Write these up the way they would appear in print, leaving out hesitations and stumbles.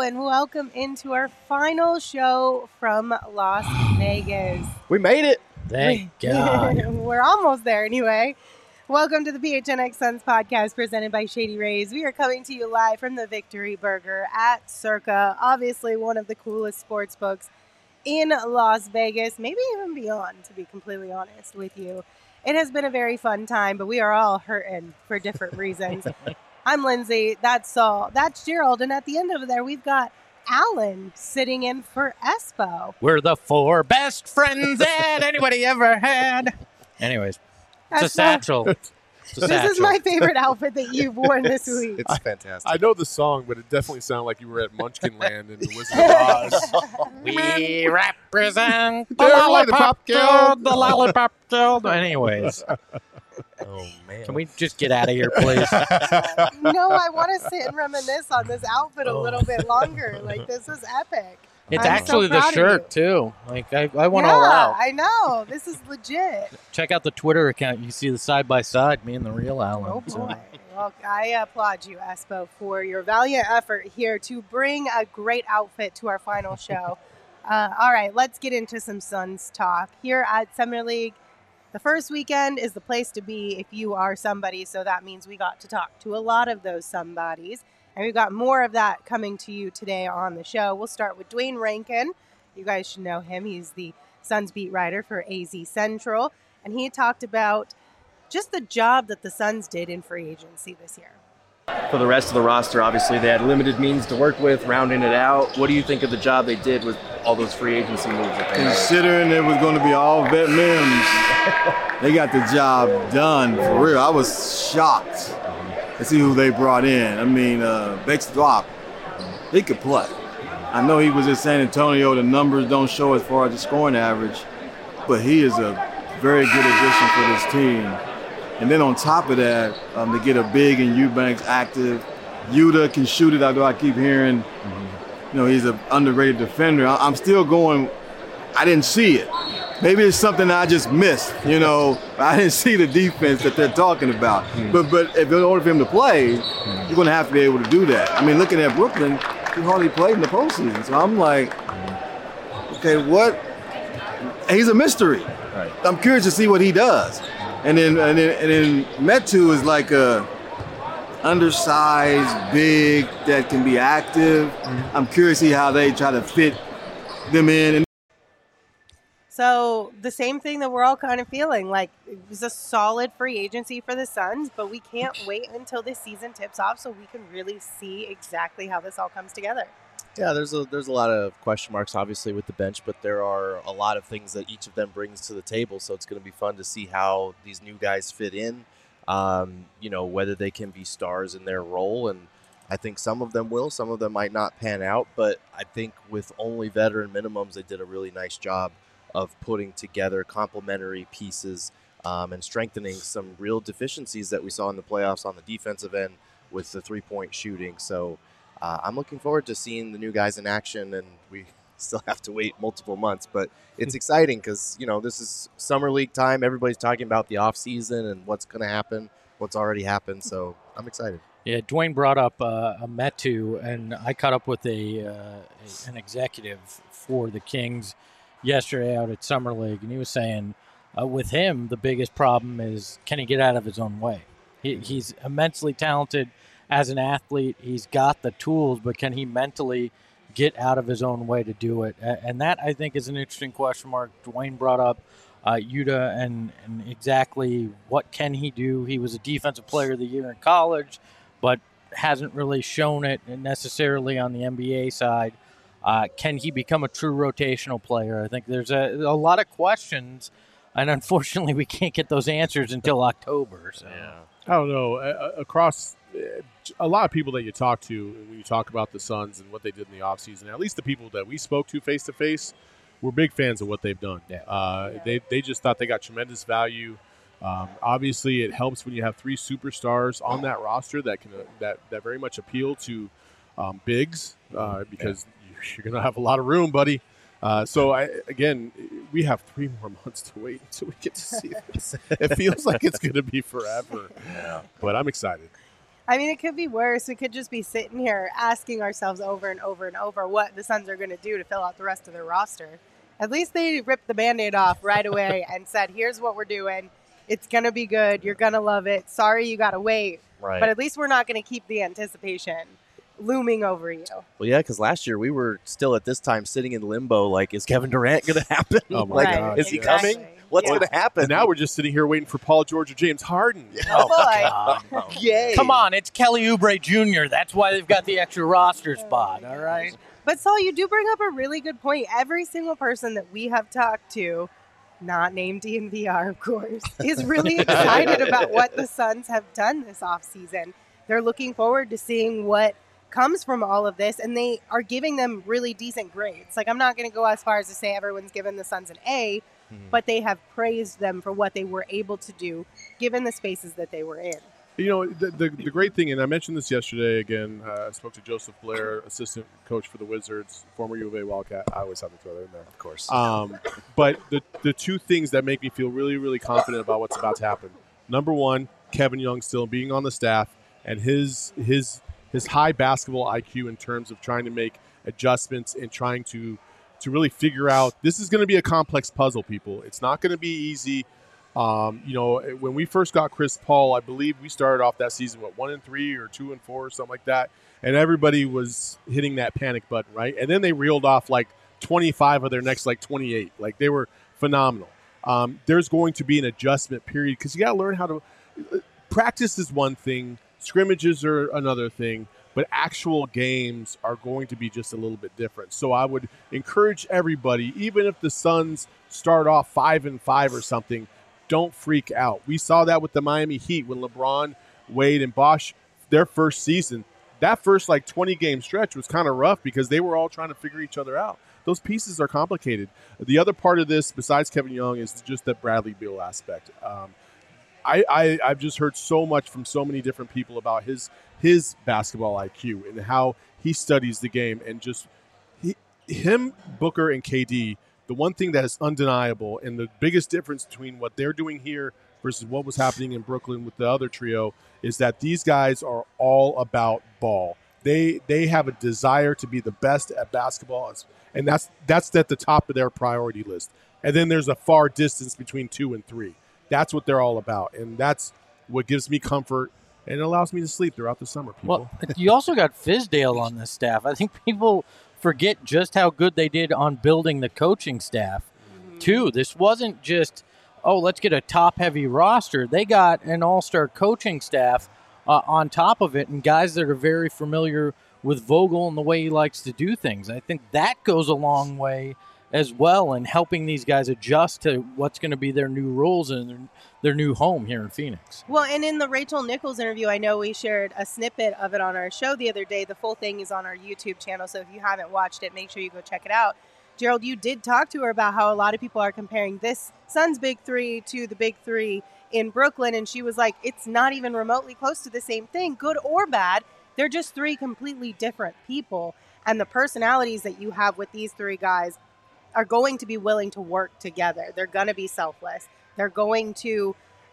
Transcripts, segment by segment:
and welcome into our final show from Las Vegas. We made it. Thank God. We're almost there anyway. Welcome to the PHNX Suns podcast presented by Shady Rays. We are coming to you live from the Victory Burger at Circa, obviously one of the coolest sports books in Las Vegas, maybe even beyond, to be completely honest with you. It has been a very fun time, but we are all hurting for different reasons. I'm Lindsay, that's Saul, that's Gerald, and at the end of there we've got Alan sitting in for Espo. We're the four best friends that anybody ever had. Anyways, it's a satchel. This is my favorite outfit that you've worn this week. It's fantastic. I know the song, but it definitely sounded like you were at Munchkin Land in the Wizard of Oz. We represent the They're like the Lollipop Pop Guild. The Lollipop Guild. Anyways, Oh, man. can we just get out of here, please? No, I want to sit and reminisce on this outfit a little bit longer. Like, this is epic. It's I'm actually so the proud of shirt, too. Like, I went yeah, all out. I know. This is legit. Check out the Twitter account. You see the side-by-side, me and the real Alan. Oh, So- boy. Well, I applaud you, Espo, for your valiant effort here to bring a great outfit to our final show. All right, let's get into some Suns talk. Here at Summer League, the first weekend is the place to be if you are somebody, so that means we got to talk to a lot of those somebodies. And we've got more of that coming to you today on the show. We'll start with Dwayne Rankin. You guys should know him. He's the Suns beat writer for AZ Central. And he talked about just the job that the Suns did in free agency this year. For the rest of the roster, obviously, they had limited means to work with, rounding it out. What do you think of the job they did with all those free agency moves that they made? Considering it was going to be all vet limbs, they got the job done for real. I was shocked to see who they brought in. I mean, Beck-Swap, he could play. I know he was in San Antonio. The numbers don't show as far as the scoring average, but he is a very good addition for this team. And then on top of that, to get a big and Eubanks active, Yuta can shoot it, although I keep hearing, he's an underrated defender. I'm still going, I didn't see it. Maybe it's something I just missed, I didn't see the defense that they're talking about. But if in order for him to play, you're going to have to be able to do that. I mean, looking at Brooklyn, he hardly played in the postseason. So I'm like, okay, what? He's a mystery. Right. I'm curious to see what he does. And then Metu is like a undersized, big, that can be active. I'm curious to see how they try to fit them in. So the same thing that we're all kind of feeling, like it was a solid free agency for the Suns, but we can't wait until this season tips off so we can really see exactly how this all comes together. Yeah, there's a lot of question marks, obviously, with the bench, but there are a lot of things that each of them brings to the table. So it's going to be fun to see how these new guys fit in, whether they can be stars in their role. And I think some of them will, some of them might not pan out. But I think with only veteran minimums, they did a really nice job of putting together complementary pieces and strengthening some real deficiencies that we saw in the playoffs on the defensive end with the three-point shooting. So I'm looking forward to seeing the new guys in action, and we still have to wait multiple months. But it's exciting because, this is summer league time. Everybody's talking about the offseason and what's going to happen, what's already happened. So I'm excited. Yeah, Dwayne brought up a Metu, and I caught up with an executive for the Kings yesterday out at Summer League, and he was saying with him, the biggest problem is can he get out of his own way? He's immensely talented as an athlete. He's got the tools, but can he mentally get out of his own way to do it? And that, I think, is an interesting question mark. Dwayne brought up Yuta and exactly what can he do. He was a defensive player of the year in college, but hasn't really shown it necessarily on the NBA side. Can he become a true rotational player? I think there's a lot of questions, and unfortunately we can't get those answers until October. So. Yeah. I don't know. Across a lot of people that you talk to when you talk about the Suns and what they did in the offseason, at least the people that we spoke to face-to-face, were big fans of what they've done. Yeah. They just thought they got tremendous value. Obviously, it helps when you have three superstars on that roster that can that very much appeal to bigs because you're going to have a lot of room, buddy. We have 3 more months to wait until we get to see this. It feels like it's going to be forever. Yeah. But I'm excited. I mean, it could be worse. We could just be sitting here asking ourselves over and over and over what the Suns are going to do to fill out the rest of their roster. At least they ripped the Band-Aid off right away and said, here's what we're doing. It's going to be good. You're going to love it. Sorry you got to wait. Right. But at least we're not going to keep the anticipation looming over you. Well, yeah, because last year we were still at this time sitting in limbo. Like, is Kevin Durant going to happen? Oh, my like, God. is he Exactly. coming? What's Yeah. going to happen? And now we're just sitting here waiting for Paul George or James Harden. Oh, boy. God. Yay. Come on, it's Kelly Oubre Jr. That's why they've got the extra roster spot, all right? But Saul, you do bring up a really good point. Every single person that we have talked to, not named DNVR, of course, is really excited about what the Suns have done this offseason. They're looking forward to seeing what comes from all of this, and they are giving them really decent grades. Like, I'm not going to go as far as to say everyone's given the Suns an A, but they have praised them for what they were able to do, given the spaces that they were in. You know, the great thing, and I mentioned this yesterday again, I spoke to Joseph Blair, assistant coach for the Wizards, former U of A Wildcat. I always have to throw that in there. Of course. But the two things that make me feel really, really confident about what's about to happen. Number one, Kevin Young still being on the staff and his high basketball IQ in terms of trying to make adjustments and trying to really figure out, this is going to be a complex puzzle, people. It's not going to be easy. You know, when we first got Chris Paul, I believe we started off that season, 1-3 or 2-4 or something like that. And everybody was hitting that panic button, right? And then they reeled off like 25 of their next like 28. Like, they were phenomenal. There's going to be an adjustment period because you got to learn how to practice is one thing. Scrimmages are another thing, but actual games are going to be just a little bit different. So I would encourage everybody, even if the Suns start off 5-5 or something, don't freak out. We saw that with the Miami Heat when LeBron, Wade, and Bosh, their first season, that first like 20-game stretch was kind of rough because they were all trying to figure each other out. Those pieces are complicated. The other part of this, besides Kevin Young, is just the Bradley Beal aspect. I've just heard so much from so many different people about his basketball IQ and how he studies the game, and just him, Booker, and KD. The one thing that is undeniable, and the biggest difference between what they're doing here versus what was happening in Brooklyn with the other trio, is that these guys are all about ball. They have a desire to be the best at basketball, and that's at the top of their priority list. And then there's a far distance between 2 and 3. That's what they're all about, and that's what gives me comfort and it allows me to sleep throughout the summer, people. Well, you also got Fizdale on this staff. I think people forget just how good they did on building the coaching staff, too. This wasn't just, let's get a top-heavy roster. They got an all-star coaching staff on top of it, and guys that are very familiar with Vogel and the way he likes to do things. I think that goes a long way as well in helping these guys adjust to what's going to be their new roles and their new home here in Phoenix. Well, and in the Rachel Nichols interview, I know we shared a snippet of it on our show the other day. The full thing is on our YouTube channel, so if you haven't watched it, make sure you go check it out. Gerald, you did talk to her about how a lot of people are comparing this Suns Big Three to the Big Three in Brooklyn, and she was like, it's not even remotely close to the same thing, good or bad. They're just three completely different people, and the personalities that you have with these three guys are going to be willing to work together. They're going to be selfless. They're going to,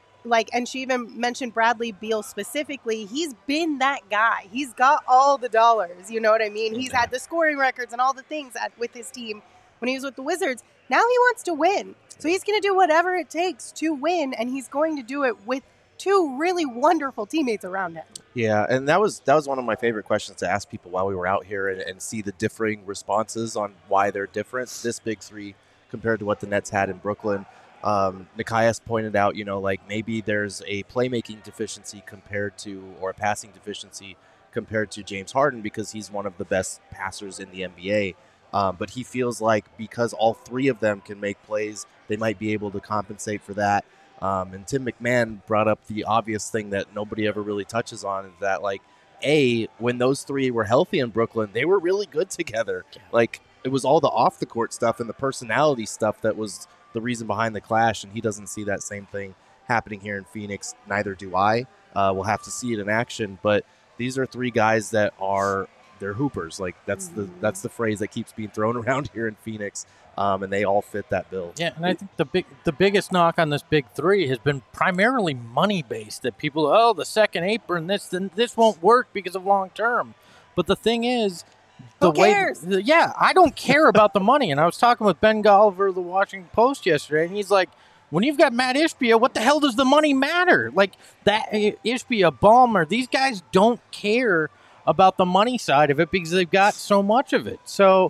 and she even mentioned Bradley Beal specifically. He's been that guy. He's got all the dollars. You know what I mean? He's had the scoring records and all the things with his team when he was with the Wizards. Now he wants to win. So he's going to do whatever it takes to win, and he's going to do it with two really wonderful teammates around him. Yeah, and that was one of my favorite questions to ask people while we were out here and see the differing responses on why they're different, this Big Three compared to what the Nets had in Brooklyn. Nikias pointed out, maybe there's a playmaking deficiency or a passing deficiency compared to James Harden because he's one of the best passers in the NBA. But he feels like because all three of them can make plays, they might be able to compensate for that. And Tim McMahon brought up the obvious thing that nobody ever really touches on, is that, when those three were healthy in Brooklyn, they were really good together. It was all the off-the-court stuff and the personality stuff that was the reason behind the clash, and he doesn't see that same thing happening here in Phoenix. Neither do I. We'll have to see it in action, but these are three guys that are they're hoopers. Like that's the phrase that keeps being thrown around here in Phoenix, and they all fit that bill. Yeah, and I think the biggest knock on this big three has been primarily money based. That people, the second apron, this won't work because of long term. But the thing is, Who cares? I don't care about the money. And I was talking with Ben Golliver of the Washington Post yesterday, and he's like, when you've got Matt Ishbia, what the hell does the money matter? Like that Ishbia, Ballmer, these guys don't care about the money side of it because they've got so much of it. So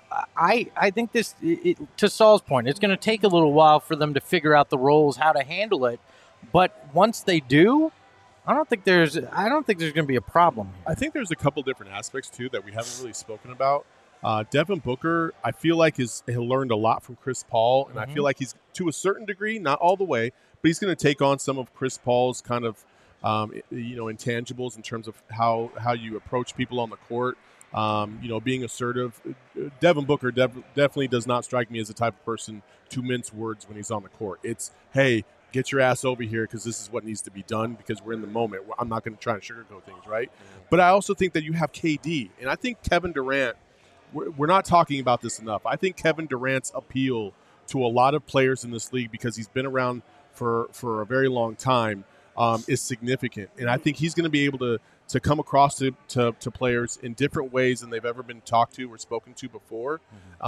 I think this, to Saul's point, it's going to take a little while for them to figure out the roles, how to handle it. But once they do, I don't think there's going to be a problem here. I think there's a couple different aspects too that we haven't really spoken about. Devin Booker, I feel like he'll learned a lot from Chris Paul, and I feel like he's, to a certain degree, not all the way, but he's going to take on some of Chris Paul's kind of intangibles in terms of how you approach people on the court. Being assertive. Devin Booker definitely does not strike me as the type of person to mince words when he's on the court. It's, hey, get your ass over here because this is what needs to be done because we're in the moment. I'm not going to try and sugarcoat things, right? But I also think that you have KD, and I think Kevin Durant, we're not talking about this enough. I think Kevin Durant's appeal to a lot of players in this league, because he's been around for a very long time, is significant. And I think he's going to be able to come across to players in different ways than they've ever been talked to or spoken to before.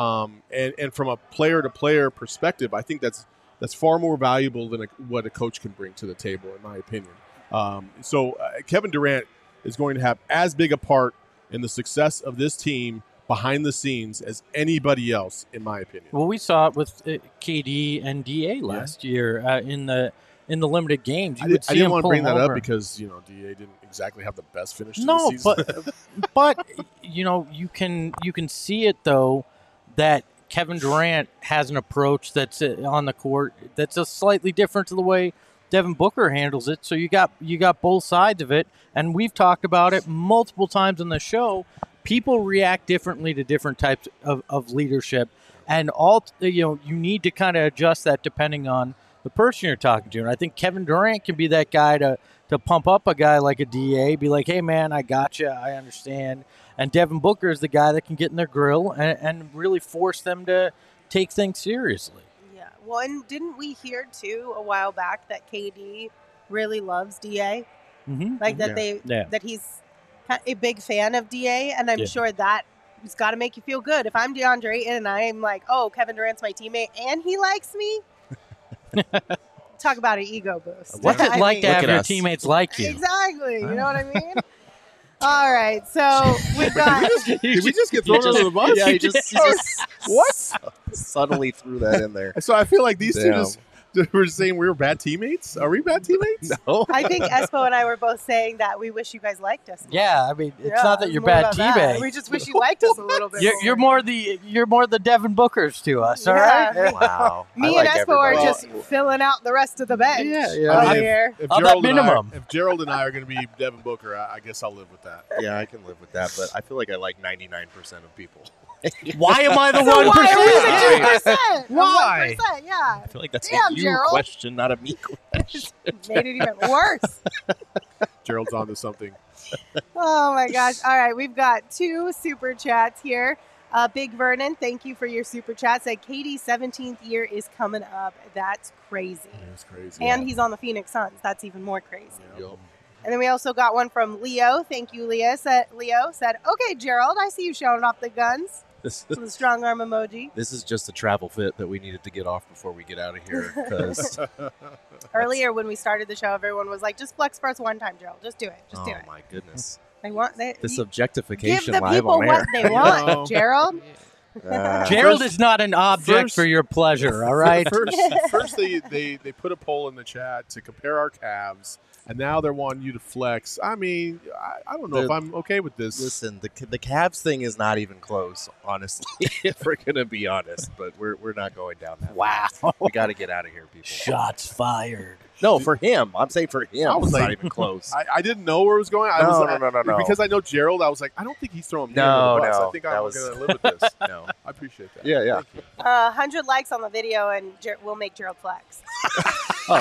And from a player-to-player perspective, I think that's far more valuable than what a coach can bring to the table, in my opinion. So Kevin Durant is going to have as big a part in the success of this team behind the scenes as anybody else, in my opinion. Well, we saw it with KD and DA last year in the limited games. I didn't want to bring that up because DA didn't exactly have the best finish to the season. but you can see it though that Kevin Durant has an approach that's on the court that's a slightly different to the way Devin Booker handles it. So you got both sides of it, and we've talked about it multiple times on the show. People react differently to different types of leadership, and you need to kind of adjust that depending on the person you're talking to. And I think Kevin Durant can be that guy to pump up a guy like a DA, be like, hey man, I got you, I understand. And Devin Booker is the guy that can get in their grill and really force them to take things seriously. Yeah. Well, and didn't we hear too a while back that KD really loves DA? Like that that he's a big fan of DA, and I'm sure that has got to make you feel good. If I'm DeAndre Ayton and I'm like, oh, Kevin Durant's my teammate and he likes me, talk about an ego boost. What's it like to have your teammates like you? Exactly. You know what I mean? All right, so we've got. Did we just get thrown under the bus? Yeah, he just what? Subtly threw that in there. So I feel like these two just were saying we were bad teammates. Are we bad teammates? No. I think Espo and I were both saying that we wish you guys liked us more. Yeah, I mean, it's not that you're bad teammates. We just wish you liked us a little bit. You're more the Devin Bookers to us. All right. Wow. Me and Espo are just filling out the rest of the bench. Yeah. Here. If that minimum. If Gerald and I are going to be Devin Booker, I guess I'll live with that. Yeah, I can live with that, but I feel like I like 99% of people. Why am I the 1%? Why are we the 2%? Why? 1%, yeah. I feel like that's Damn, a you Gerald. question, not a me question. Made it even worse. Gerald's onto something. Oh my gosh. All right, we've got 2 super chats here. Big Vernon, thank you for your super chat. Said Katie's 17th year is coming up. That's crazy. That's crazy. And he's on the Phoenix Suns. That's even more crazy. Yep. And then we also got one from Leo. Thank you, Leo. Said, okay, Gerald, I see you showing off the guns. With a strong arm emoji. This is just a travel fit that we needed to get off before we get out of here. Because earlier when we started the show, everyone was like, just flex for us one time, Gerald. Just do it. Just do it. Oh, my goodness. Give This the objectification people live on what air. they want, Gerald. Gerald is not an object for your pleasure, all right? First they put a poll in the chat to compare our calves, and now they're wanting you to flex. I mean, I don't know if I'm okay with this. Listen, the Cavs thing is not even close, honestly, if we're going to be honest. But we're not going down that path. We got to get out of here, people. Shots fired. No, for him. I'm saying for him. I was It's like, not even close. I didn't know where it was going. No. Because I know Gerald, I was like, I don't think he's throwing me No, under the bus. no, I think that I'm was- going to live with this. No. I appreciate that. Yeah, yeah. Thank you. 100 likes on the video, and we'll make Gerald flex. Oh,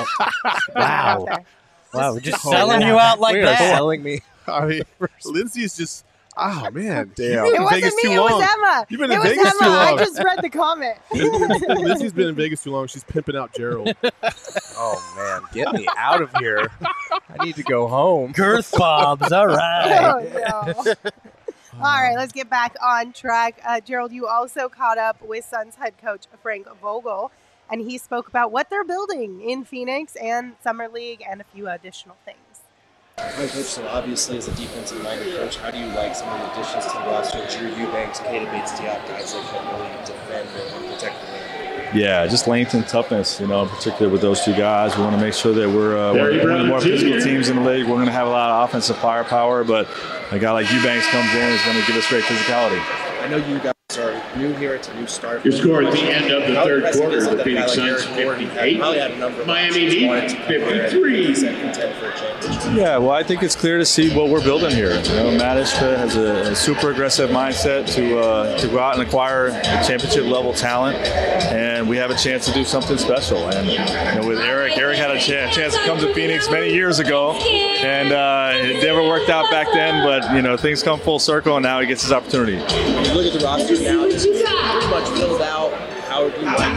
Out wow. there. Wow, we're just selling you out like We are that. selling me. I mean, Lindsay is just. Oh man, Damn. It Been in wasn't Vegas me. too It was long. Emma. You've been It in was Vegas Emma. too long. I just read the comment. Lizzie's been in Vegas too long. She's pimping out Gerald. Oh man, get me out of here! I need to go home. Girth bobs. All right. Oh, no. All right, let's get back on track. Gerald, you also caught up with Suns head coach Frank Vogel, and he spoke about what they're building in Phoenix and Summer League and a few additional things. All right, Coach, so obviously as a defensive-minded coach, how do you like some of the additions to the roster? Drew Eubanks, Keita Bates-Diop, guys that can really defend and protect the ring. Yeah, just length and toughness, in particular with those two guys. We want to make sure that we're one of the more physical teams in the league. We're going to have a lot of offensive firepower, but a guy like Eubanks comes in is going to give us great physicality. I know you guys are new here. It's a new start. Your score at the end of the How third impressive quarter, is it the that a guy Phoenix like Suns Eric Gordon 58, probably had a number of Miami options, Heat wanted to come here and 53. contend for a championship. Yeah, well, I think it's clear to see what we're building here. Matt Ishbia has a super aggressive mindset to go out and acquire championship-level talent, and we have a chance to do something special. And with Eric had a chance to come to Phoenix many years ago, and it never worked out back then, but things come full circle, and now he gets his opportunity. When you look at the roster now, it's pretty much filled out. How do you like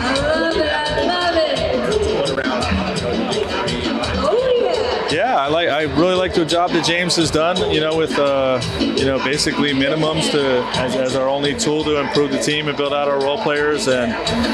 one around? Yeah, I really like the job that James has done, with basically minimums as our only tool to improve the team and build out our role players, and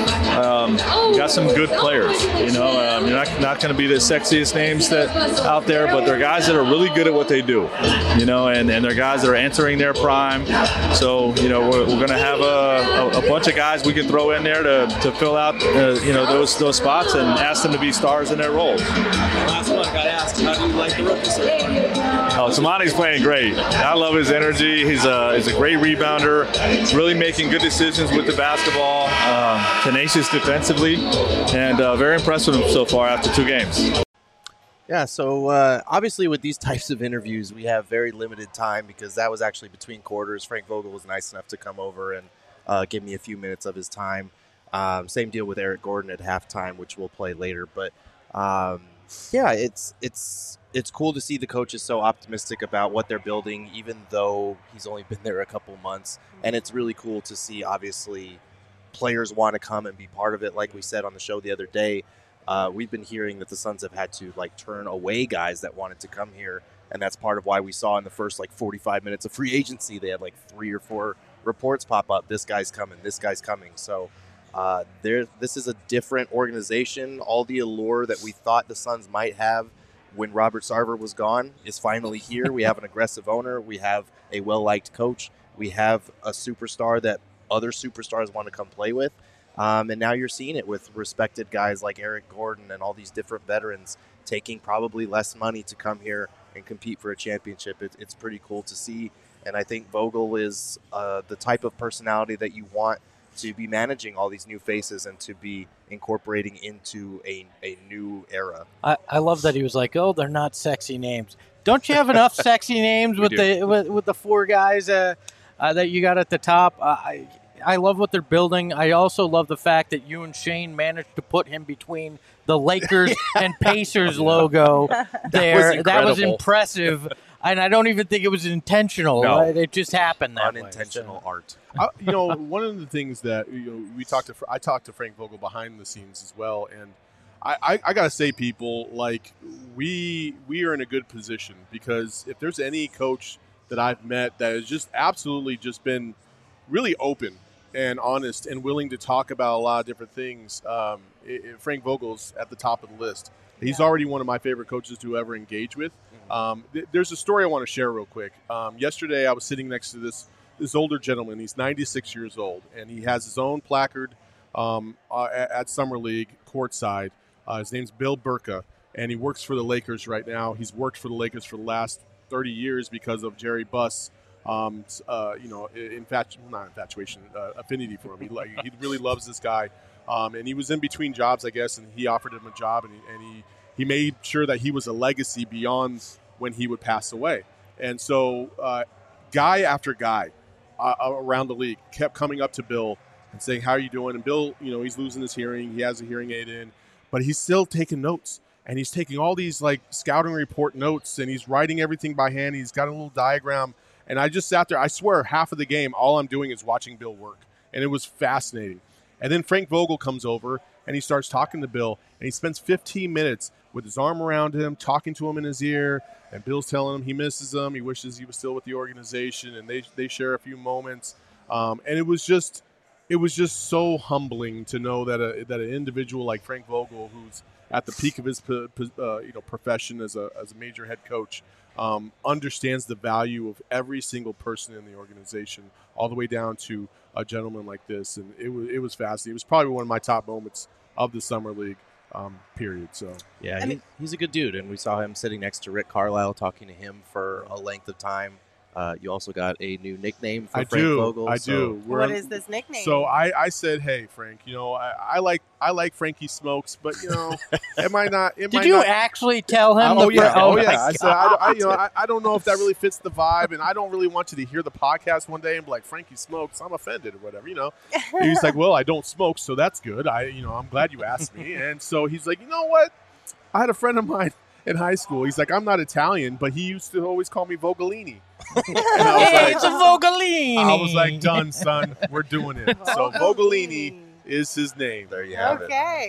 we got some good players. You're not going to be the sexiest names that out there, but they're guys that are really good at what they do, and they're guys that are entering their prime. So we're going to have a bunch of guys we can throw in there to fill out those spots and ask them to be stars in their roles. Last one, got asked, how do you like the rookie so far? Oh, Samani's playing great. I love his energy. He's a great rebounder, really making good decisions with the basketball, tenacious defensively, and very impressed with him so far after 2 games. Yeah, so obviously with these types of interviews, we have very limited time because that was actually between quarters. Frank Vogel was nice enough to come over and give me a few minutes of his time. Same deal with Eric Gordon at halftime, which we'll play later. But yeah, it's cool to see the coaches so optimistic about what they're building, even though he's only been there a couple months. And it's really cool to see, obviously, players want to come and be part of it. Like we said on the show the other day, we've been hearing that the Suns have had to turn away guys that wanted to come here, and that's part of why we saw in the first 45 minutes of free agency they had 3 or 4 reports pop up. This guy's coming. This guy's coming. So this is a different organization. All the allure that we thought the Suns might have when Robert Sarver was gone is finally here. We have an aggressive owner. We have a well-liked coach. We have a superstar that other superstars want to come play with. And now you're seeing it with respected guys like Eric Gordon and all these different veterans taking probably less money to come here and compete for a championship. It's pretty cool to see. And I think Vogel is the type of personality that you want to be managing all these new faces and to be incorporating into a new era. I love that he was like, "Oh, they're not sexy names. Don't you have enough sexy names with the 4 guys that you got at the top?" I love what they're building. I also love the fact that you and Shane managed to put him between the Lakers and Pacers logo there. That was impressive. And I don't even think it was intentional. No. Right? It just happened that Unintentional art. One of the things that I talked to Frank Vogel behind the scenes as well, and I gotta say, people, we are in a good position, because if there's any coach that I've met that has just absolutely just been really open and honest and willing to talk about a lot of different things, Frank Vogel's at the top of the list. He's already one of my favorite coaches to ever engage with. There's a story I want to share real quick. Yesterday, I was sitting next to this older gentleman. He's 96 years old, and he has his own placard at Summer League courtside. His name's Bill Burka, and he works for the Lakers right now. He's worked for the Lakers for the last 30 years because of Jerry Buss. Affinity for him. He really loves this guy. And he was in between jobs, I guess, and he offered him a job, and he made sure that he was a legacy beyond when he would pass away. And so guy after guy around the league kept coming up to Bill and saying, "How are you doing?" And Bill, he's losing his hearing. He has a hearing aid in, but he's still taking notes. And he's taking all these scouting report notes, and he's writing everything by hand. He's got a little diagram. And I just sat there. I swear, half of the game, all I'm doing is watching Bill work, and it was fascinating. And then Frank Vogel comes over, and he starts talking to Bill, and he spends 15 minutes with his arm around him, talking to him in his ear, and Bill's telling him he misses him, he wishes he was still with the organization, and they share a few moments. And it was just so humbling to know that an individual like Frank Vogel, who's at the peak of his profession as a major head coach, understands the value of every single person in the organization, all the way down to a gentleman like this. And it was fascinating. It was probably one of my top moments of the summer league period. So yeah, he's a good dude, and we saw him sitting next to Rick Carlisle, talking to him for a length of time. You also got a new nickname for Frank Vogel. I do. What is this nickname? So I said, hey, Frank, I like Frankie Smokes, but it might not. Did you actually tell him? Oh yeah. I said I don't know if that really fits the vibe, and I don't really want you to hear the podcast one day and be like, Frankie Smokes, I'm offended or whatever. And he's like, well, I don't smoke, so that's good. I'm glad you asked me. And so he's like, you know what? I had a friend of mine in high school. He's like, I'm not Italian, but he used to always call me Vogelini. And I was like, it's a Vogelini. I was like, done, son. We're doing it. So Vogelini is his name. There you have it. Okay.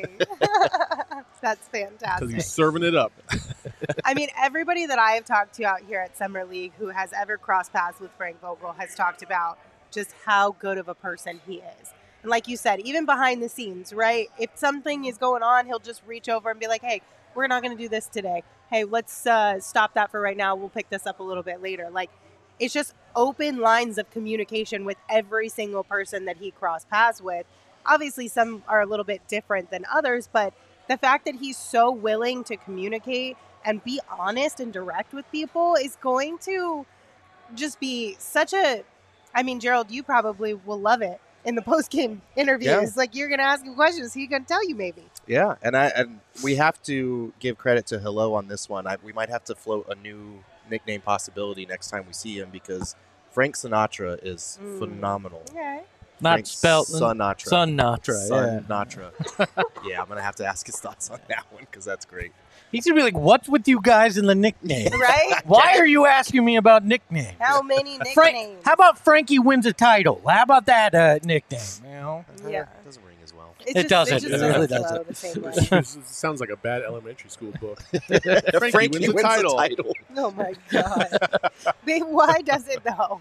That's Because fantastic. he's serving it up. I mean, everybody that I have talked to out here at Summer League who has ever crossed paths with Frank Vogel has talked about just how good of a person he is. And like you said, even behind the scenes, right? If something is going on, he'll just reach over and be like, hey, we're not going to do this today. Hey, let's stop that for right now. We'll pick this up a little bit later. Like, it's just open lines of communication with every single person that he crossed paths with. Obviously, some are a little bit different than others, but the fact that he's so willing to communicate and be honest and direct with people is going to just be such a... I mean, Gerald, you probably will love it in the post-game interviews. Yeah. Like, you're going to ask him questions. He's going to tell you maybe. Yeah, and we have to give credit to Hello on this one. We might have to float a new nickname possibility next time we see him, because Frank Sinatra is phenomenal. Okay. Not Frank spelled Sinatra. Sinatra. Yeah, I'm going to have to ask his thoughts on that one, because that's great. He's going to be like, what's with you guys in the nickname? Right? Why are you asking me about nicknames? How many nicknames? Frank, how about Frankie wins a title? How about that nickname? Yeah. It doesn't ring as well. It doesn't. It It really doesn't doesn't. flow the same way. This sounds like a bad elementary school book. Frankie wins a title. Oh my God. Babe, why does it though?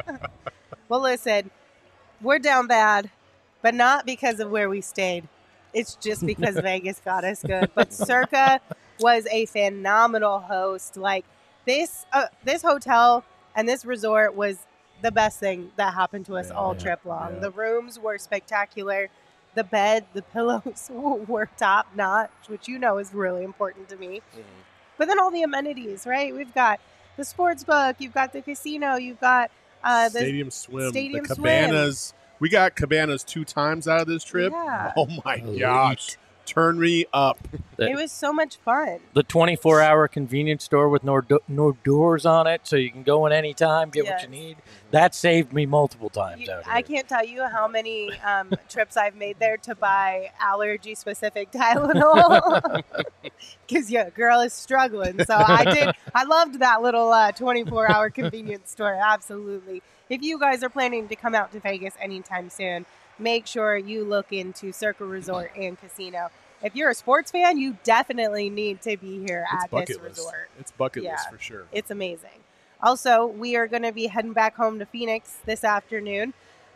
Well, listen, we're down bad, but not because of where we stayed. It's just because Vegas got us good. But Circa was a phenomenal host. Like this hotel and this resort was the best thing that happened to us all trip long. Yeah. The rooms were spectacular. The bed, the pillows were top notch, which is really important to me. Mm-hmm. But then all the amenities, right? We've got the sports book, you've got the casino, you've got the Stadium swim, Stadium the cabanas. We got cabanas 2 times out of this trip. Yeah. Oh my gosh. Turn me up. It was so much fun. The 24-hour convenience store with no doors on it, so you can go in any time, get what Yes. you need. That saved me multiple times out here. I can't tell you how many trips I've made there to buy allergy-specific Tylenol. Because, girl is struggling. So I loved that little 24-hour convenience store. Absolutely. If you guys are planning to come out to Vegas anytime soon, make sure you look into Circa Resort and Casino. If you're a sports fan, you definitely need to be here at this resort. It's bucket list for sure. It's amazing. Also, we are going to be heading back home to Phoenix this afternoon.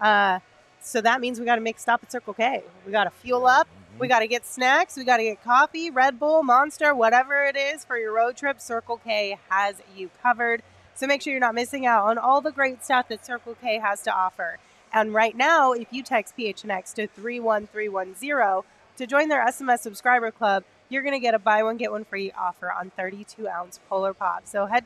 So that means we got to make a stop at Circle K. We got to fuel up. We got to get snacks. We got to get coffee, Red Bull, Monster, whatever it is for your road trip. Circle K has you covered. So make sure you're not missing out on all the great stuff that Circle K has to offer. And right now, if you text PHNX to 31310 to join their SMS subscriber club, you're going to get a buy one, get one free offer on 32-ounce Polar Pop. So head to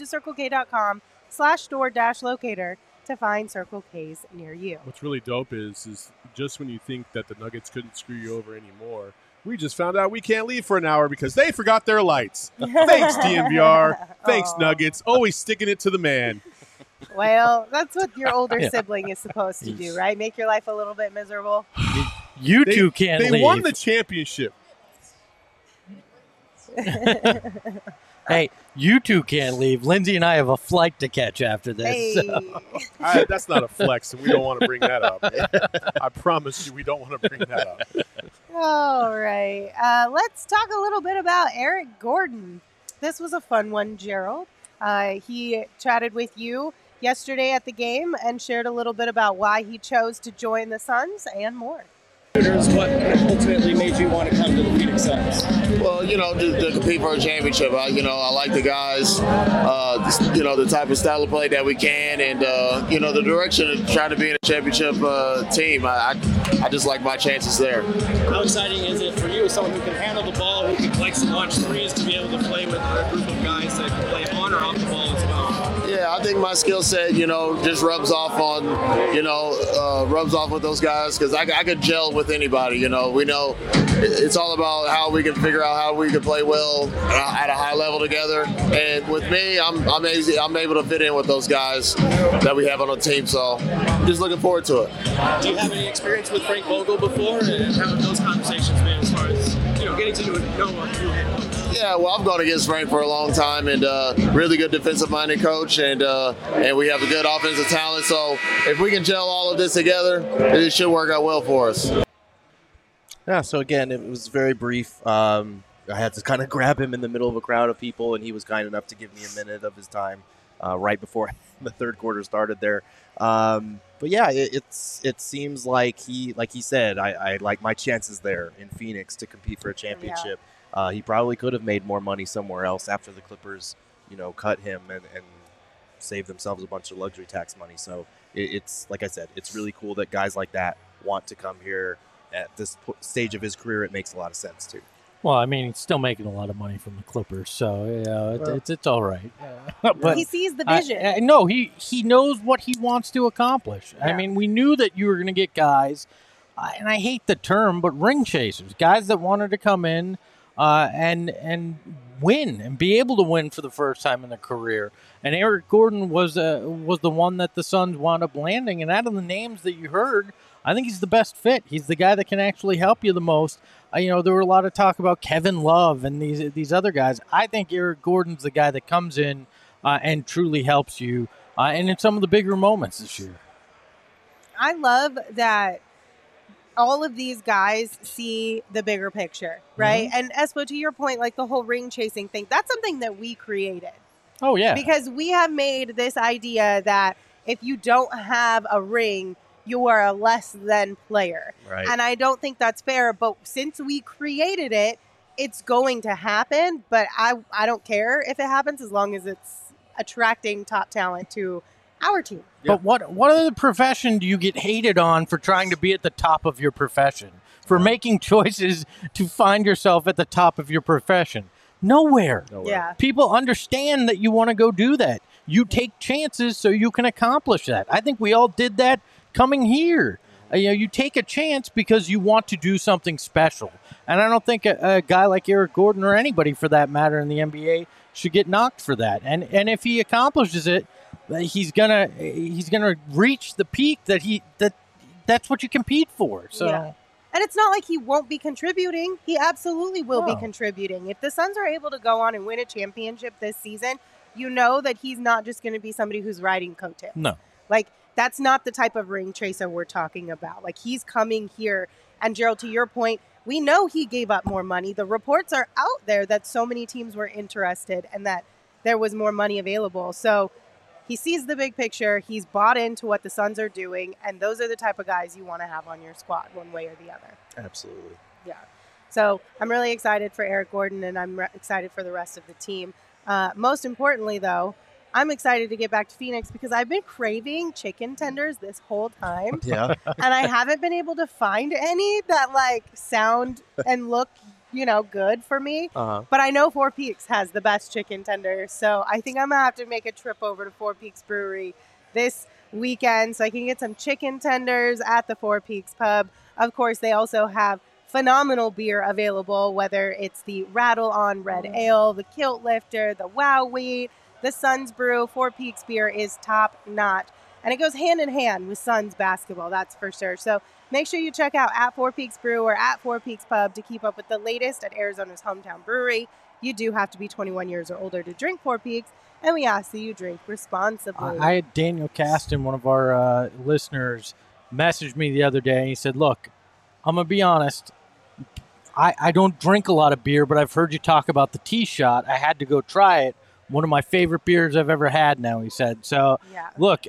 CircleK.com/store-locator to find Circle K's near you. What's really dope is just when you think that the Nuggets couldn't screw you over anymore, we just found out we can't leave for an hour because they forgot their lights. Thanks, DNVR. Thanks, Nuggets. Always sticking it to the man. Well, that's what your older sibling is supposed to do, right? Make your life a little bit miserable. You two can't leave. They won the championship. Hey, you two can't leave. Lindsay and I have a flight to catch after this. Hey. So. That's not a flex, and we don't want to bring that up. I promise you, we don't want to bring that up. All right. Let's talk a little bit about Eric Gordon. This was a fun one, Gerald. He chatted with you yesterday at the game and shared a little bit about why he chose to join the Suns and more. What ultimately made you want to come to the Phoenix Suns? Well, to compete for a championship. I like the guys, the type of style of play that we can, and, the direction of trying to be in a championship team. I just like my chances there. How exciting is it for you as someone who can handle the ball, who likes to launch threes, to be able to play with a group of guys that can play on or off the ball as well? Yeah, I think my skill set, just rubs off with those guys because I could gel with anybody. We know it's all about how we can figure out how we can play well at a high level together. And with me, I'm able to fit in with those guys that we have on the team. So just looking forward to it. Do you have any experience with Frank Vogel before, and how have those conversations been as far as getting to know who head coach? Yeah, well, I've gone against Frank for a long time, and really good defensive-minded coach, and we have a good offensive talent. So if we can gel all of this together, it should work out well for us. Yeah, so again, it was very brief. I had to kind of grab him in the middle of a crowd of people, and he was kind enough to give me a minute of his time right before the third quarter started there. But yeah, it seems like he said, I like my chances there in Phoenix to compete for a championship. Yeah. He probably could have made more money somewhere else after the Clippers, cut him and save themselves a bunch of luxury tax money. So it's like I said, it's really cool that guys like that want to come here at this stage of his career. It makes a lot of sense too. Well, I mean, he's still making a lot of money from the Clippers, so it's all right. But he sees the vision. No, he knows what he wants to accomplish. Yeah. I mean, we knew that you were going to get guys, and I hate the term, but ring chasers, guys that wanted to come in and win and be able to win for the first time in their career. And Eric Gordon was the one that the Suns wound up landing. And out of the names that you heard, I think he's the best fit. He's the guy that can actually help you the most. There were a lot of talk about Kevin Love and these other guys. I think Eric Gordon's the guy that comes in and truly helps you and in some of the bigger moments this year. I love that all of these guys see the bigger picture, right? Mm-hmm. And Espo, to your point, like the whole ring chasing thing, that's something that we created. Oh, yeah. Because we have made this idea that if you don't have a ring, you are a less than player. Right. And I don't think that's fair. But since we created it, it's going to happen. But I don't care if it happens as long as it's attracting top talent to our team. Yeah. But what other profession do you get hated on for trying to be at the top of your profession? For making choices to find yourself at the top of your profession? Nowhere. Yeah. People understand that you want to go do that. You take chances so you can accomplish that. I think we all did that coming here. You take a chance because you want to do something special. And I don't think a guy like Eric Gordon or anybody for that matter in the NBA should get knocked for that. And if he accomplishes it, he's gonna reach the peak that's what you compete for. So. Yeah. And it's not like he won't be contributing. He absolutely will be contributing. If the Suns are able to go on and win a championship this season, you know that he's not just going to be somebody who's riding coattails. No. Like, that's not the type of ring chaser we're talking about. Like, he's coming here. And, Gerald, to your point, we know he gave up more money. The reports are out there that so many teams were interested and that there was more money available. So he sees the big picture. He's bought into what the Suns are doing. And those are the type of guys you want to have on your squad one way or the other. Absolutely. Yeah. So I'm really excited for Eric Gordon, and I'm excited for the rest of the team. Most importantly, though, I'm excited to get back to Phoenix because I've been craving chicken tenders this whole time. Yeah. And I haven't been able to find any that sound and look, good for me. Uh-huh. But I know Four Peaks has the best chicken tenders. So I think I'm going to have to make a trip over to Four Peaks Brewery this weekend so I can get some chicken tenders at the Four Peaks Pub. Of course, they also have phenomenal beer available, whether it's the Rattle On Red Ale, the Kilt Lifter, the Wow Wheat, the Suns Brew. Four Peaks beer is top notch. And it goes hand in hand with Suns basketball, that's for sure. So make sure you check out at Four Peaks Brew or at Four Peaks Pub to keep up with the latest at Arizona's hometown brewery. You do have to be 21 years or older to drink Four Peaks, and we ask that you drink responsibly. I had Daniel Caston, one of our listeners, messaged me the other day, and he said, look, I'm going to be honest. I don't drink a lot of beer, but I've heard you talk about the Tea Shot. I had to go try it. One of my favorite beers I've ever had now, he said. So, look,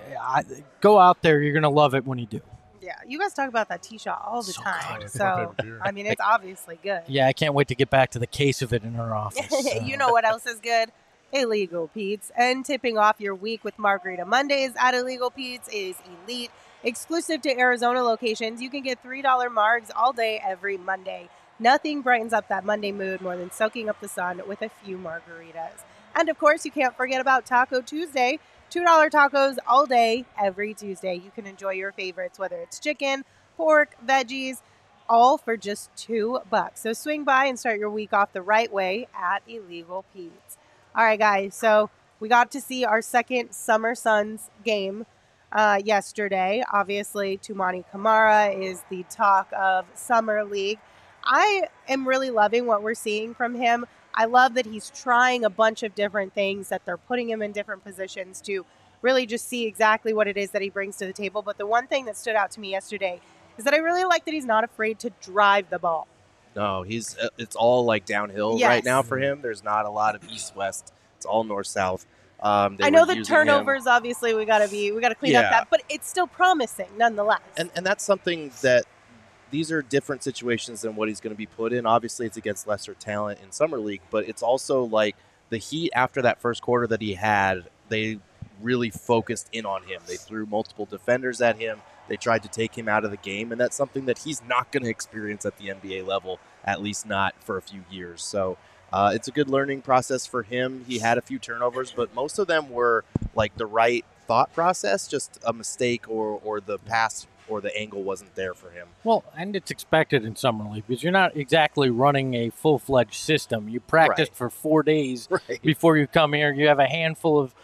go out there. You're going to love it when you do. Yeah, you guys talk about that Tea Shot all the time. good. So, I mean, it's obviously good. Yeah, I can't wait to get back to the case of it in our office. You know what else is good? Illegal Pete's. And tipping off your week with Margarita Mondays at Illegal Pete's is elite. Exclusive to Arizona locations, you can get $3 margs all day every Monday. Nothing brightens up that Monday mood more than soaking up the sun with a few margaritas. And of course, you can't forget about Taco Tuesday. $2 tacos all day, every Tuesday. You can enjoy your favorites, whether it's chicken, pork, veggies, all for just $2. So swing by and start your week off the right way at Illegal Pete's. All right, guys. So we got to see our second Summer Suns game yesterday. Obviously, Toumani Camara is the talk of Summer League. I am really loving what we're seeing from him. I love that he's trying a bunch of different things, that they're putting him in different positions to really just see exactly what it is that he brings to the table. But the one thing that stood out to me yesterday is that I really like that he's not afraid to drive the ball. No, it's all like downhill right now for him. There's not a lot of east-west. It's all north-south. I know the turnovers, obviously, we got to clean up that, but it's still promising nonetheless. And that's something that these are different situations than what he's going to be put in. Obviously, it's against lesser talent in Summer League, but it's also like the Heat after that first quarter that he had, they really focused in on him. They threw multiple defenders at him. They tried to take him out of the game, and that's something that he's not going to experience at the NBA level, at least not for a few years. So it's a good learning process for him. He had a few turnovers, but most of them were like the right thought process, just a mistake or the pass or the angle wasn't there for him. Well, and it's expected in Summer League because you're not exactly running a full-fledged system. You practiced for 4 days before you come here. You have a handful of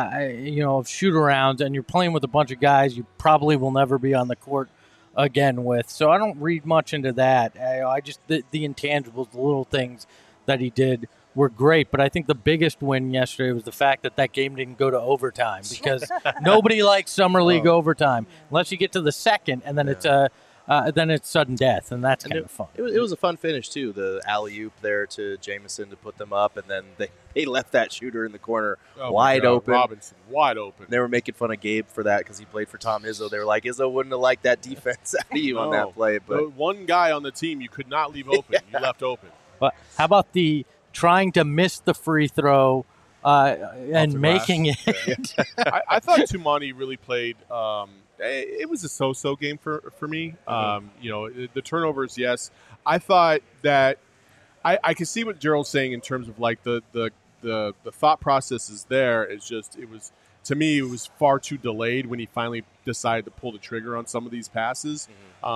of shoot-arounds, and you're playing with a bunch of guys you probably will never be on the court again with. So I don't read much into that. I just the intangibles, the little things that he did were great. But I think the biggest win yesterday was the fact that game didn't go to overtime because nobody likes Summer League overtime unless you get to the second, and then it's sudden death, and that's kind of fun. It was a fun finish, too, the alley-oop there to Jamison to put them up, and then they left that shooter in the corner wide open. Robinson, wide open. They were making fun of Gabe for that because he played for Tom Izzo. They were like, Izzo wouldn't have liked that defense out of you on that play. But one guy on the team you could not leave open. You left open. But how about the trying to miss the free throw and making it? I thought Toumani really played it was a so-so game for me. The turnovers, yes. I thought that I can see what Gerald's saying in terms of like the thought process is there. It's just to me it was far too delayed when he finally decided to pull the trigger on some of these passes.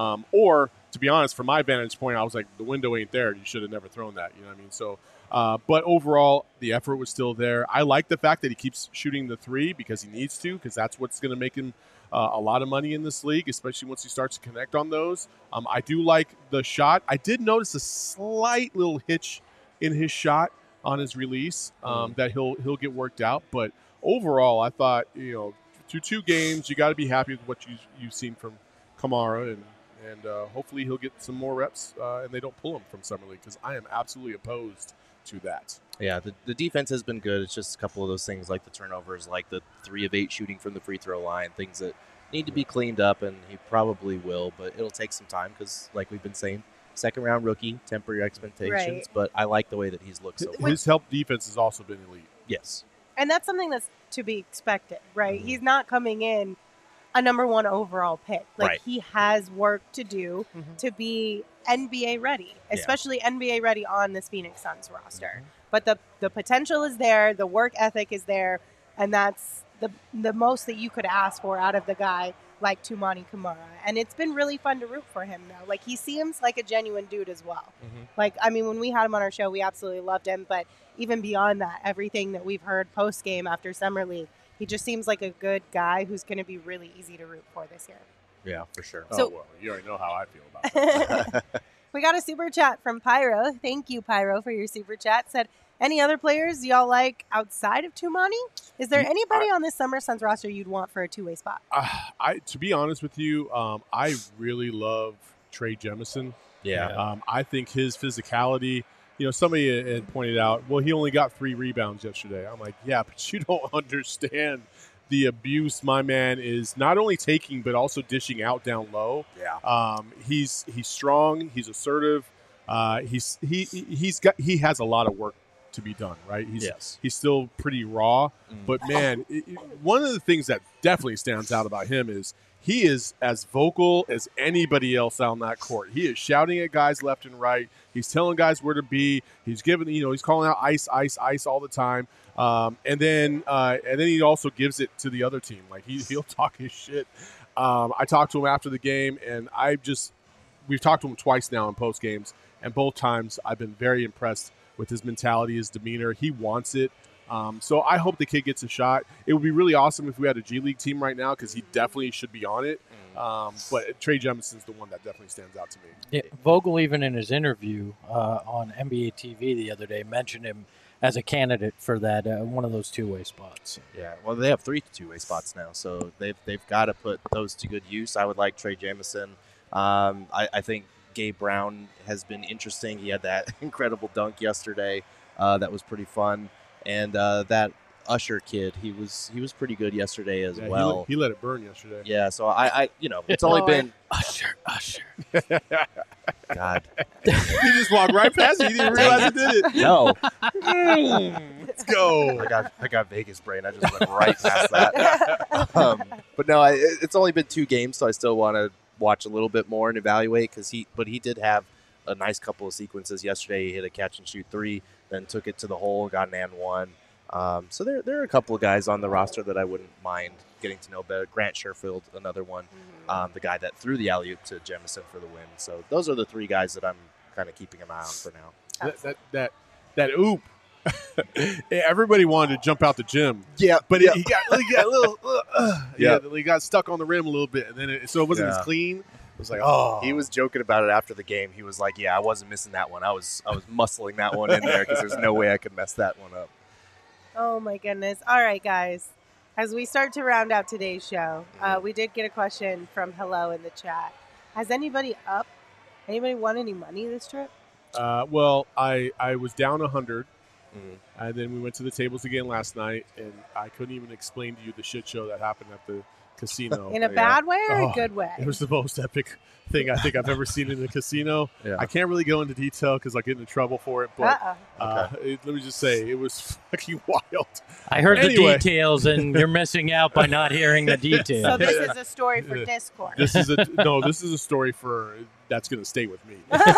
Or to be honest, from my vantage point, I was like, the window ain't there. You should have never thrown that. You know what I mean? So. But overall, the effort was still there. I like the fact that he keeps shooting the three because he needs to, because that's what's going to make him a lot of money in this league, especially once he starts to connect on those. I do like the shot. I did notice a slight little hitch in his shot on his release that he'll get worked out. But overall, I thought, through 2 games, you got to be happy with what you've seen from Camara, and hopefully he'll get some more reps and they don't pull him from Summer League, because I am absolutely opposed to that. Yeah, the defense has been good. It's just a couple of those things like the turnovers, like the 3 of 8 shooting from the free throw line, things that need to be cleaned up, and he probably will, but it'll take some time because, like we've been saying, second-round rookie, temper your expectations, but I like the way that he's looked so far. His help defense has also been elite. Yes. And that's something that's to be expected, right? He's not coming in a number 1 overall pick. He has work to do to be NBA ready, especially NBA ready on this Phoenix Suns roster. But the potential is there, the work ethic is there, and that's the most that you could ask for out of the guy like Toumani Camara. And it's been really fun to root for him now. Like, he seems like a genuine dude as well. When we had him on our show, we absolutely loved him. But even beyond that, everything that we've heard post-game after Summer League, he just seems like a good guy who's going to be really easy to root for this year. Yeah, for sure. So, you already know how I feel about that. We got a super chat from Pyro. Thank you, Pyro, for your super chat. Said, Any other players y'all like outside of Tumani? Is there anybody on this Summer Suns roster you'd want for a two-way spot? To be honest with you, I really love Trey Jemison. Yeah. I think his physicality. Somebody had pointed out, well, he only got 3 rebounds yesterday. I'm like, yeah, but you don't understand the abuse my man is not only taking but also dishing out down low. Yeah. He's strong. He's assertive. He has a lot of work to be done, right? He's still pretty raw, but man, one of the things that definitely stands out about him is he is as vocal as anybody else on that court. He is shouting at guys left and right. He's telling guys where to be. He's giving, he's calling out ice, ice, ice all the time. And then he also gives it to the other team. Like he'll talk his shit. I talked to him after the game, and we've talked to him twice now in post games, and both times I've been very impressed with his mentality, his demeanor. He wants it. So I hope the kid gets a shot. It would be really awesome if we had a G League team right now because he definitely should be on it. But Trey Jemison's the one that definitely stands out to me. Yeah, Vogel, even in his interview on NBA TV the other day, mentioned him as a candidate for that one of those two-way spots. Yeah, well, they have 3 two-way spots now, so they've got to put those to good use. I would like Trey Jamison. I think Gabe Brown has been interesting. He had that incredible dunk yesterday. That was pretty fun. And that Usher kid, he was pretty good yesterday as well. He let it burn yesterday. Yeah, so I it's only been Usher. God. He just walked right past it. He didn't realize he did it. No. Let's go. I got Vegas brain. I just went right past that. But no, it's only been 2 games, so I still want to watch a little bit more and evaluate but he did have a nice couple of sequences yesterday. He hit a catch and shoot 3, then took it to the hole, got an and 1. So there are a couple of guys on the roster that I wouldn't mind getting to know better. Grant Sherfield, another one, the guy that threw the alley-oop to Jemison for the win. So those are the 3 guys that I'm kind of keeping an eye on for now. That oop. Everybody wanted to jump out the gym. Yeah, but he got a little. He got stuck on the rim a little bit, and then so it wasn't as clean. It was like, oh. He was joking about it after the game. He was like, "Yeah, I wasn't missing that one. I was muscling that one in there because there's no way I could mess that one up." Oh my goodness! All right, guys. As we start to round out today's show, we did get a question from Hello in the chat. Has anybody won any money this trip? Well, I was down 100. And then we went to the tables again last night, and I couldn't even explain to you the shit show that happened at the casino. In a bad way or a good way? It was the most epic thing I think I've ever seen in the casino. Yeah. I can't really go into detail because I get into trouble for it, but let me just say it was fucking wild. I heard the details, and you're missing out by not hearing the details. So this is a story for Discord. This is a story that's going to stay with me.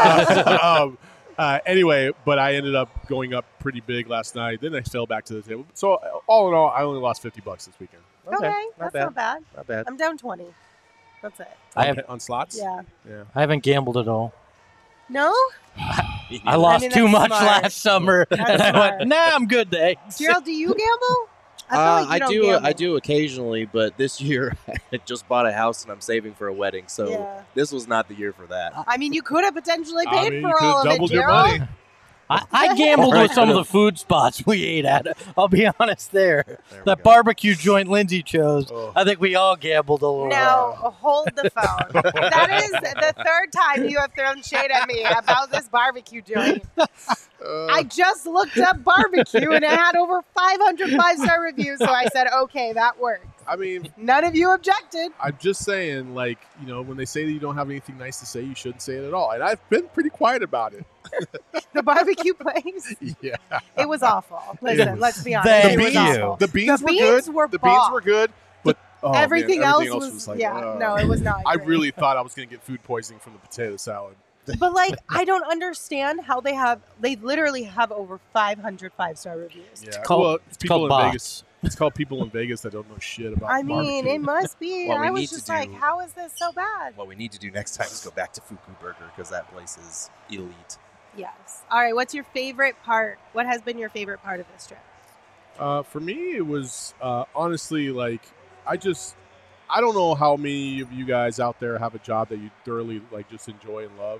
Anyway, but I ended up going up pretty big last night. Then I fell back to the table. So all in all, I only lost $50 this weekend. Okay, that's not bad. Not bad. I'm down 20. That's it. On slots? Yeah. I haven't gambled at all. No? I lost too much last summer, and I went, nah, I'm good, thanks. Gerald, do you gamble? I do occasionally, but this year I just bought a house and I'm saving for a wedding, so this was not the year for that. I mean, you could have potentially paid for all of it, doubled your Gerald. money. I gambled with some of the food spots we ate at. I'll be honest there. That barbecue joint Lindsay chose, I think we all gambled a little. Now, hold the phone. That is the 3rd time you have thrown shade at me about this barbecue joint. I just looked up barbecue, and it had over 500 5-star reviews, so I said, okay, that works. I mean, none of you objected. I'm just saying, when they say that you don't have anything nice to say, you shouldn't say it at all. And I've been pretty quiet about it. The barbecue place? Yeah. It was awful. Listen, let's be honest. It was awful. The beans were good. The beans were good. But everything else was like, no, it was not. I really thought I was going to get food poisoning from the potato salad. But I don't understand how they literally have over 500 5-star reviews. Yeah. It's people in Vegas. It's called people in Vegas that don't know shit about barbecue. It must be. I was just like, how is this so bad? What we need to do next time is go back to Fuku Burger because that place is elite. Yes. All right. What's your favorite part? What has been your favorite part of this trip? For me, it was honestly I don't know how many of you guys out there have a job that you thoroughly just enjoy and love.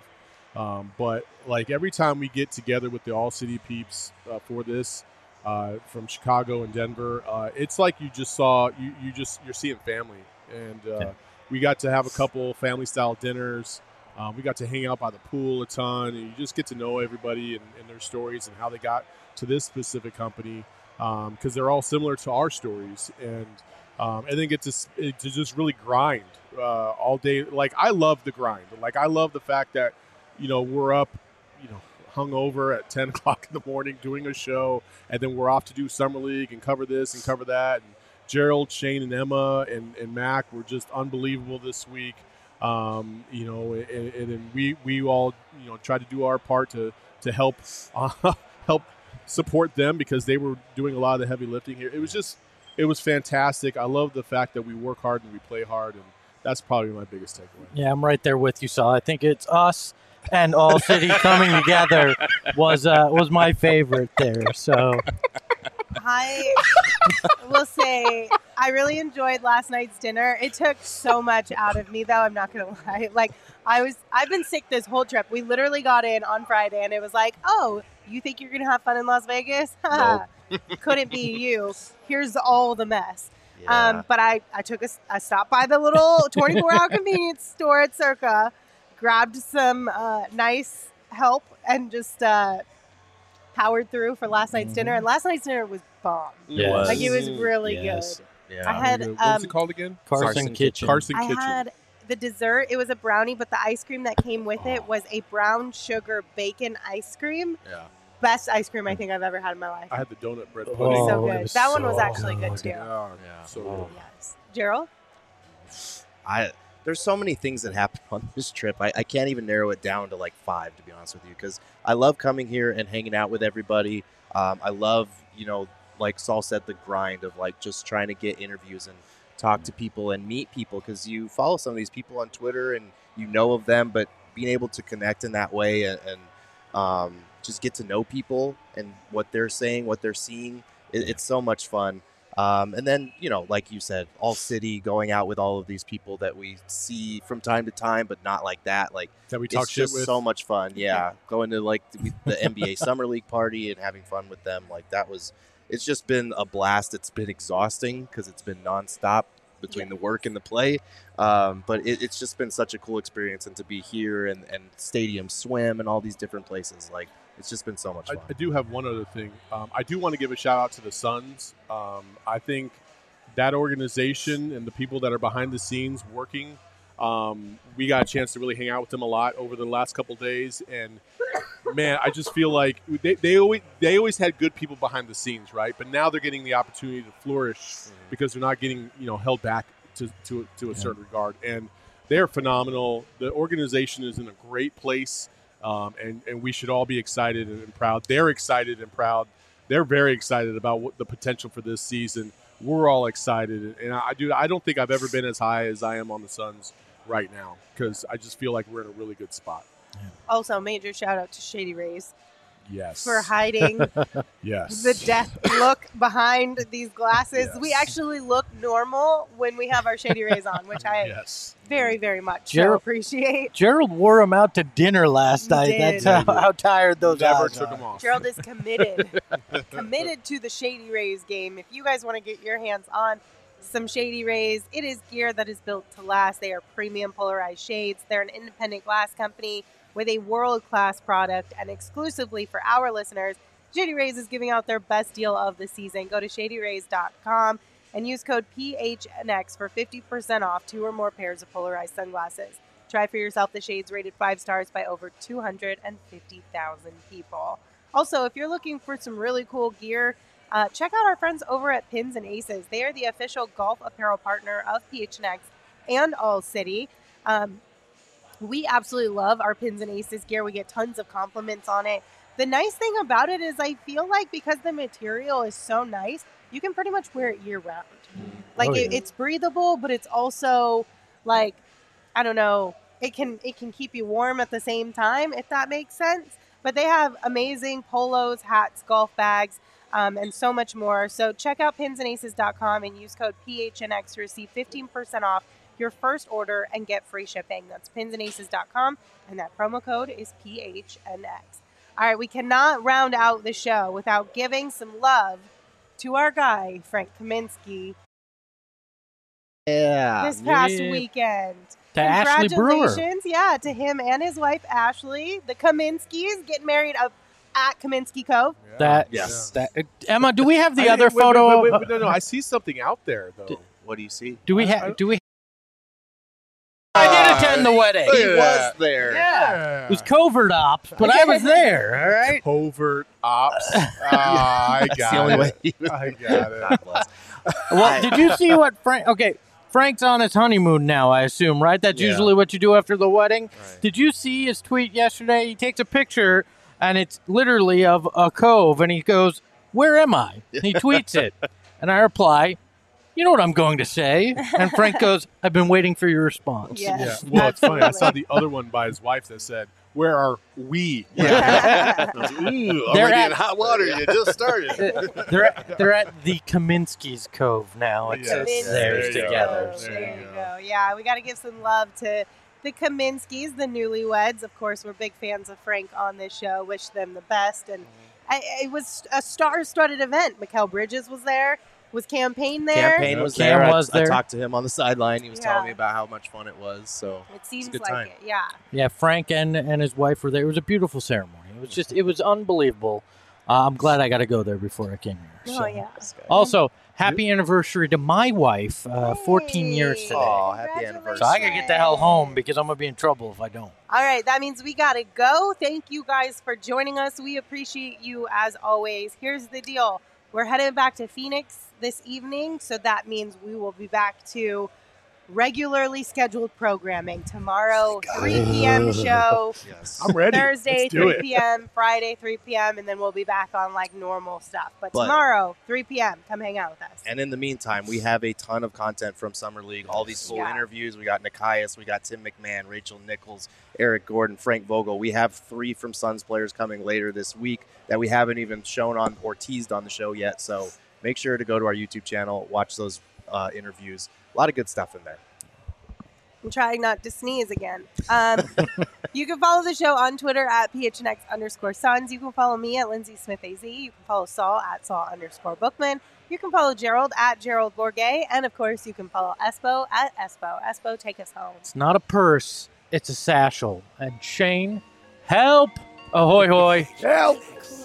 But like every time we get together with the All City peeps for this, from Chicago and Denver, it's like you're seeing family, and we got to have a couple family style dinners. We got to hang out by the pool a ton, and you just get to know everybody and their stories and how they got to this specific company, because they're all similar to our stories, and then get to just really grind all day. Like, I love the grind. Like, I love the fact that, we're up, hungover at 10 o'clock in the morning doing a show, and then we're off to do Summer League and cover this and cover that. And Gerald, Shane, and Emma and Mac were just unbelievable this week. And then we all, tried to do our part to help help support them, because they were doing a lot of the heavy lifting here. It was fantastic. I love the fact that we work hard and we play hard, and that's probably my biggest takeaway. Yeah, I'm right there with you, Saul. I think it's us and All City coming together was my favorite there. So I will say I really enjoyed last night's dinner. It took so much out of me, though. I'm not gonna lie. Like, I've been sick this whole trip. We literally got in on Friday, and it was like, oh, you think you're gonna have fun in Las Vegas? Nope. Couldn't be you. Here's all the mess. Yeah. But I took a stop by the little 24-hour convenience store at Circa, grabbed some nice help, and just powered through for last night's dinner. And last night's dinner was bomb. Yes. Like, it was really Yes. good. Yeah. I had What was it called again? Carson Kitchen. Carson I Kitchen. had the dessert. It was a brownie, but the ice cream that came with it was a brown sugar bacon ice cream. Yeah. Best ice cream I think I've ever had in my life. I had the donut bread Oh, pudding. So it good. was That one was so actually good too. Yeah. Yeah. So good. Yes. Gerald? There's so many things that happen on this trip. I can't even narrow it down to like 5, to be honest with you, because I love coming here and hanging out with everybody. I love, like Saul said, the grind of like just trying to get interviews and talk to people and meet people, because you follow some of these people on Twitter and you know of them, but being able to connect in that way and just get to know people and what they're saying, what they're seeing, it's so much fun. And then, like you said, All City, going out with all of these people that we see from time to time, but not like that. Like, That we talk it's shit just with. so much fun. Yeah. Going to like the NBA Summer League party and having fun with them. Like, it's just been a blast. It's been exhausting because it's been nonstop between the work and the play. But it's just been such a cool experience, and to be here and Stadium Swim and all these different places. Like, it's just been so much fun. I do have one other thing. I do want to give a shout out to the Suns. I think that organization and the people that are behind the scenes working, we got a chance to really hang out with them a lot over the last couple days. And man, I just feel like they always had good people behind the scenes, right? But now they're getting the opportunity to flourish because they're not getting held back to a certain regard. And they're phenomenal. The organization is in a great place. And we should all be excited and proud. They're excited and proud. They're very excited about what the potential for this season. We're all excited, and I don't think I've ever been as high as I am on the Suns right now, because I just feel like we're in a really good spot. Also, major shout out to Shady Rays Yes. for hiding Yes. the death look behind these glasses. Yes. We actually look normal when we have our Shady Rays on, which I Yes. very, very much so Gerald- appreciate. Gerald wore him out to dinner last He night. did. That's how tired those Never eyes took are. them off. Gerald is committed to the Shady Rays game. If you guys want to get your hands on some Shady Rays, it is gear that is built to last. They are premium polarized shades. They're an independent glass company with a world-class product, and exclusively for our listeners, Shady Rays is giving out their best deal of the season. Go to shadyrays.com and use code PHNX for 50% off 2 or more pairs of polarized sunglasses. Try for yourself the shades rated 5 stars by over 250,000 people. Also, if you're looking for some really cool gear, check out our friends over at Pins and Aces. They are the official golf apparel partner of PHNX and All City. We absolutely love our Pins and Aces gear. We get tons of compliments on it. The nice thing about it is I feel like because the material is so nice, you can pretty much wear it year round. Like, it's breathable, but it's also like, I don't know, it can keep you warm at the same time, if that makes sense. But they have amazing polos, hats, golf bags, and so much more. So check out pinsandaces.com and use code PHNX to receive 15% off your first order and get free shipping. That's pinsandaces.com, and that promo code is PHNX. All right, we cannot round out the show without giving some love to our guy, Frank Kaminsky, this past weekend. To Ashley Brewer. Congratulations, to him and his wife, Ashley. The Kaminskys getting married up at Kaminsky Cove. Emma, do we have the other wait, photo? Wait, no, I see something out there, though. What do you see? Do we have? I did attend the wedding. He was there. Yeah. It was covert ops, but I was there, all right? Covert ops. I got it. I got it. Well, did you see what Frank... Okay, Frank's on his honeymoon now, I assume, right? That's usually what you do after the wedding. Right. Did you see his tweet yesterday? He takes a picture, and it's literally of a cove, and he goes, "Where am I?" And he tweets it. And I reply, "You know what I'm going to say." And Frank goes, "I've been waiting for your response." Yes. Yeah. Well, it's funny. I saw the other one by his wife that said, "Where are we?" Yeah. Already in hot water. You just started. They're at the Kaminsky's Cove now. It's theirs together. There you go. Yeah, we got to give some love to the Kaminskys, the newlyweds. Of course, we're big fans of Frank on this show. Wish them the best. And it was a star-studded event. Mikal Bridges was there. Was Campaign there? Campaign was there. I talked to him on the sideline. He was telling me about how much fun it was. So it seems it's a good like time. it. Yeah. Yeah, Frank and his wife were there. It was a beautiful ceremony. It was unbelievable. I'm glad I got to go there before I came here. So. Oh, yeah. Also, happy anniversary to my wife. 14 years today. Oh, happy anniversary. So I got to get the hell home because I'm going to be in trouble if I don't. All right, that means we got to go. Thank you guys for joining us. We appreciate you as always. Here's the deal. We're headed back to Phoenix this evening, so that means we will be back to regularly scheduled programming. Tomorrow, 3 p.m. show. Yes. I'm ready. Thursday, Let's do 3 p.m., Friday, 3 p.m., and then we'll be back on like normal stuff. But tomorrow, 3 p.m., come hang out with us. And in the meantime, we have a ton of content from Summer League. All these full interviews. We got Nikias, we got Tim McMahon, Rachel Nichols, Eric Gordon, Frank Vogel. We have 3 from Suns players coming later this week that we haven't even shown on or teased on the show yet. So make sure to go to our YouTube channel, watch those interviews. A lot of good stuff in there. I'm trying not to sneeze again. You can follow the show on Twitter at PHNX_Suns. You can follow me at Lindsay Smith AZ. You can follow Saul at Saul_Bookman. You can follow Gerald at Gerald Bourget. And, of course, you can follow Espo at Espo. Espo, take us home. It's not a purse. It's a satchel. And Shane, help! Ahoy, hoy. Help!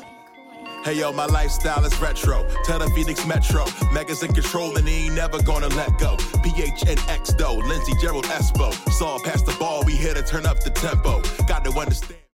Hey yo, my lifestyle is retro. Tell the Phoenix Metro. Megas in control and he ain't never gonna let go. PHNX though, Lindsey, Gerald, Espo. Saw past the ball, we here to turn up the tempo. Got to understand.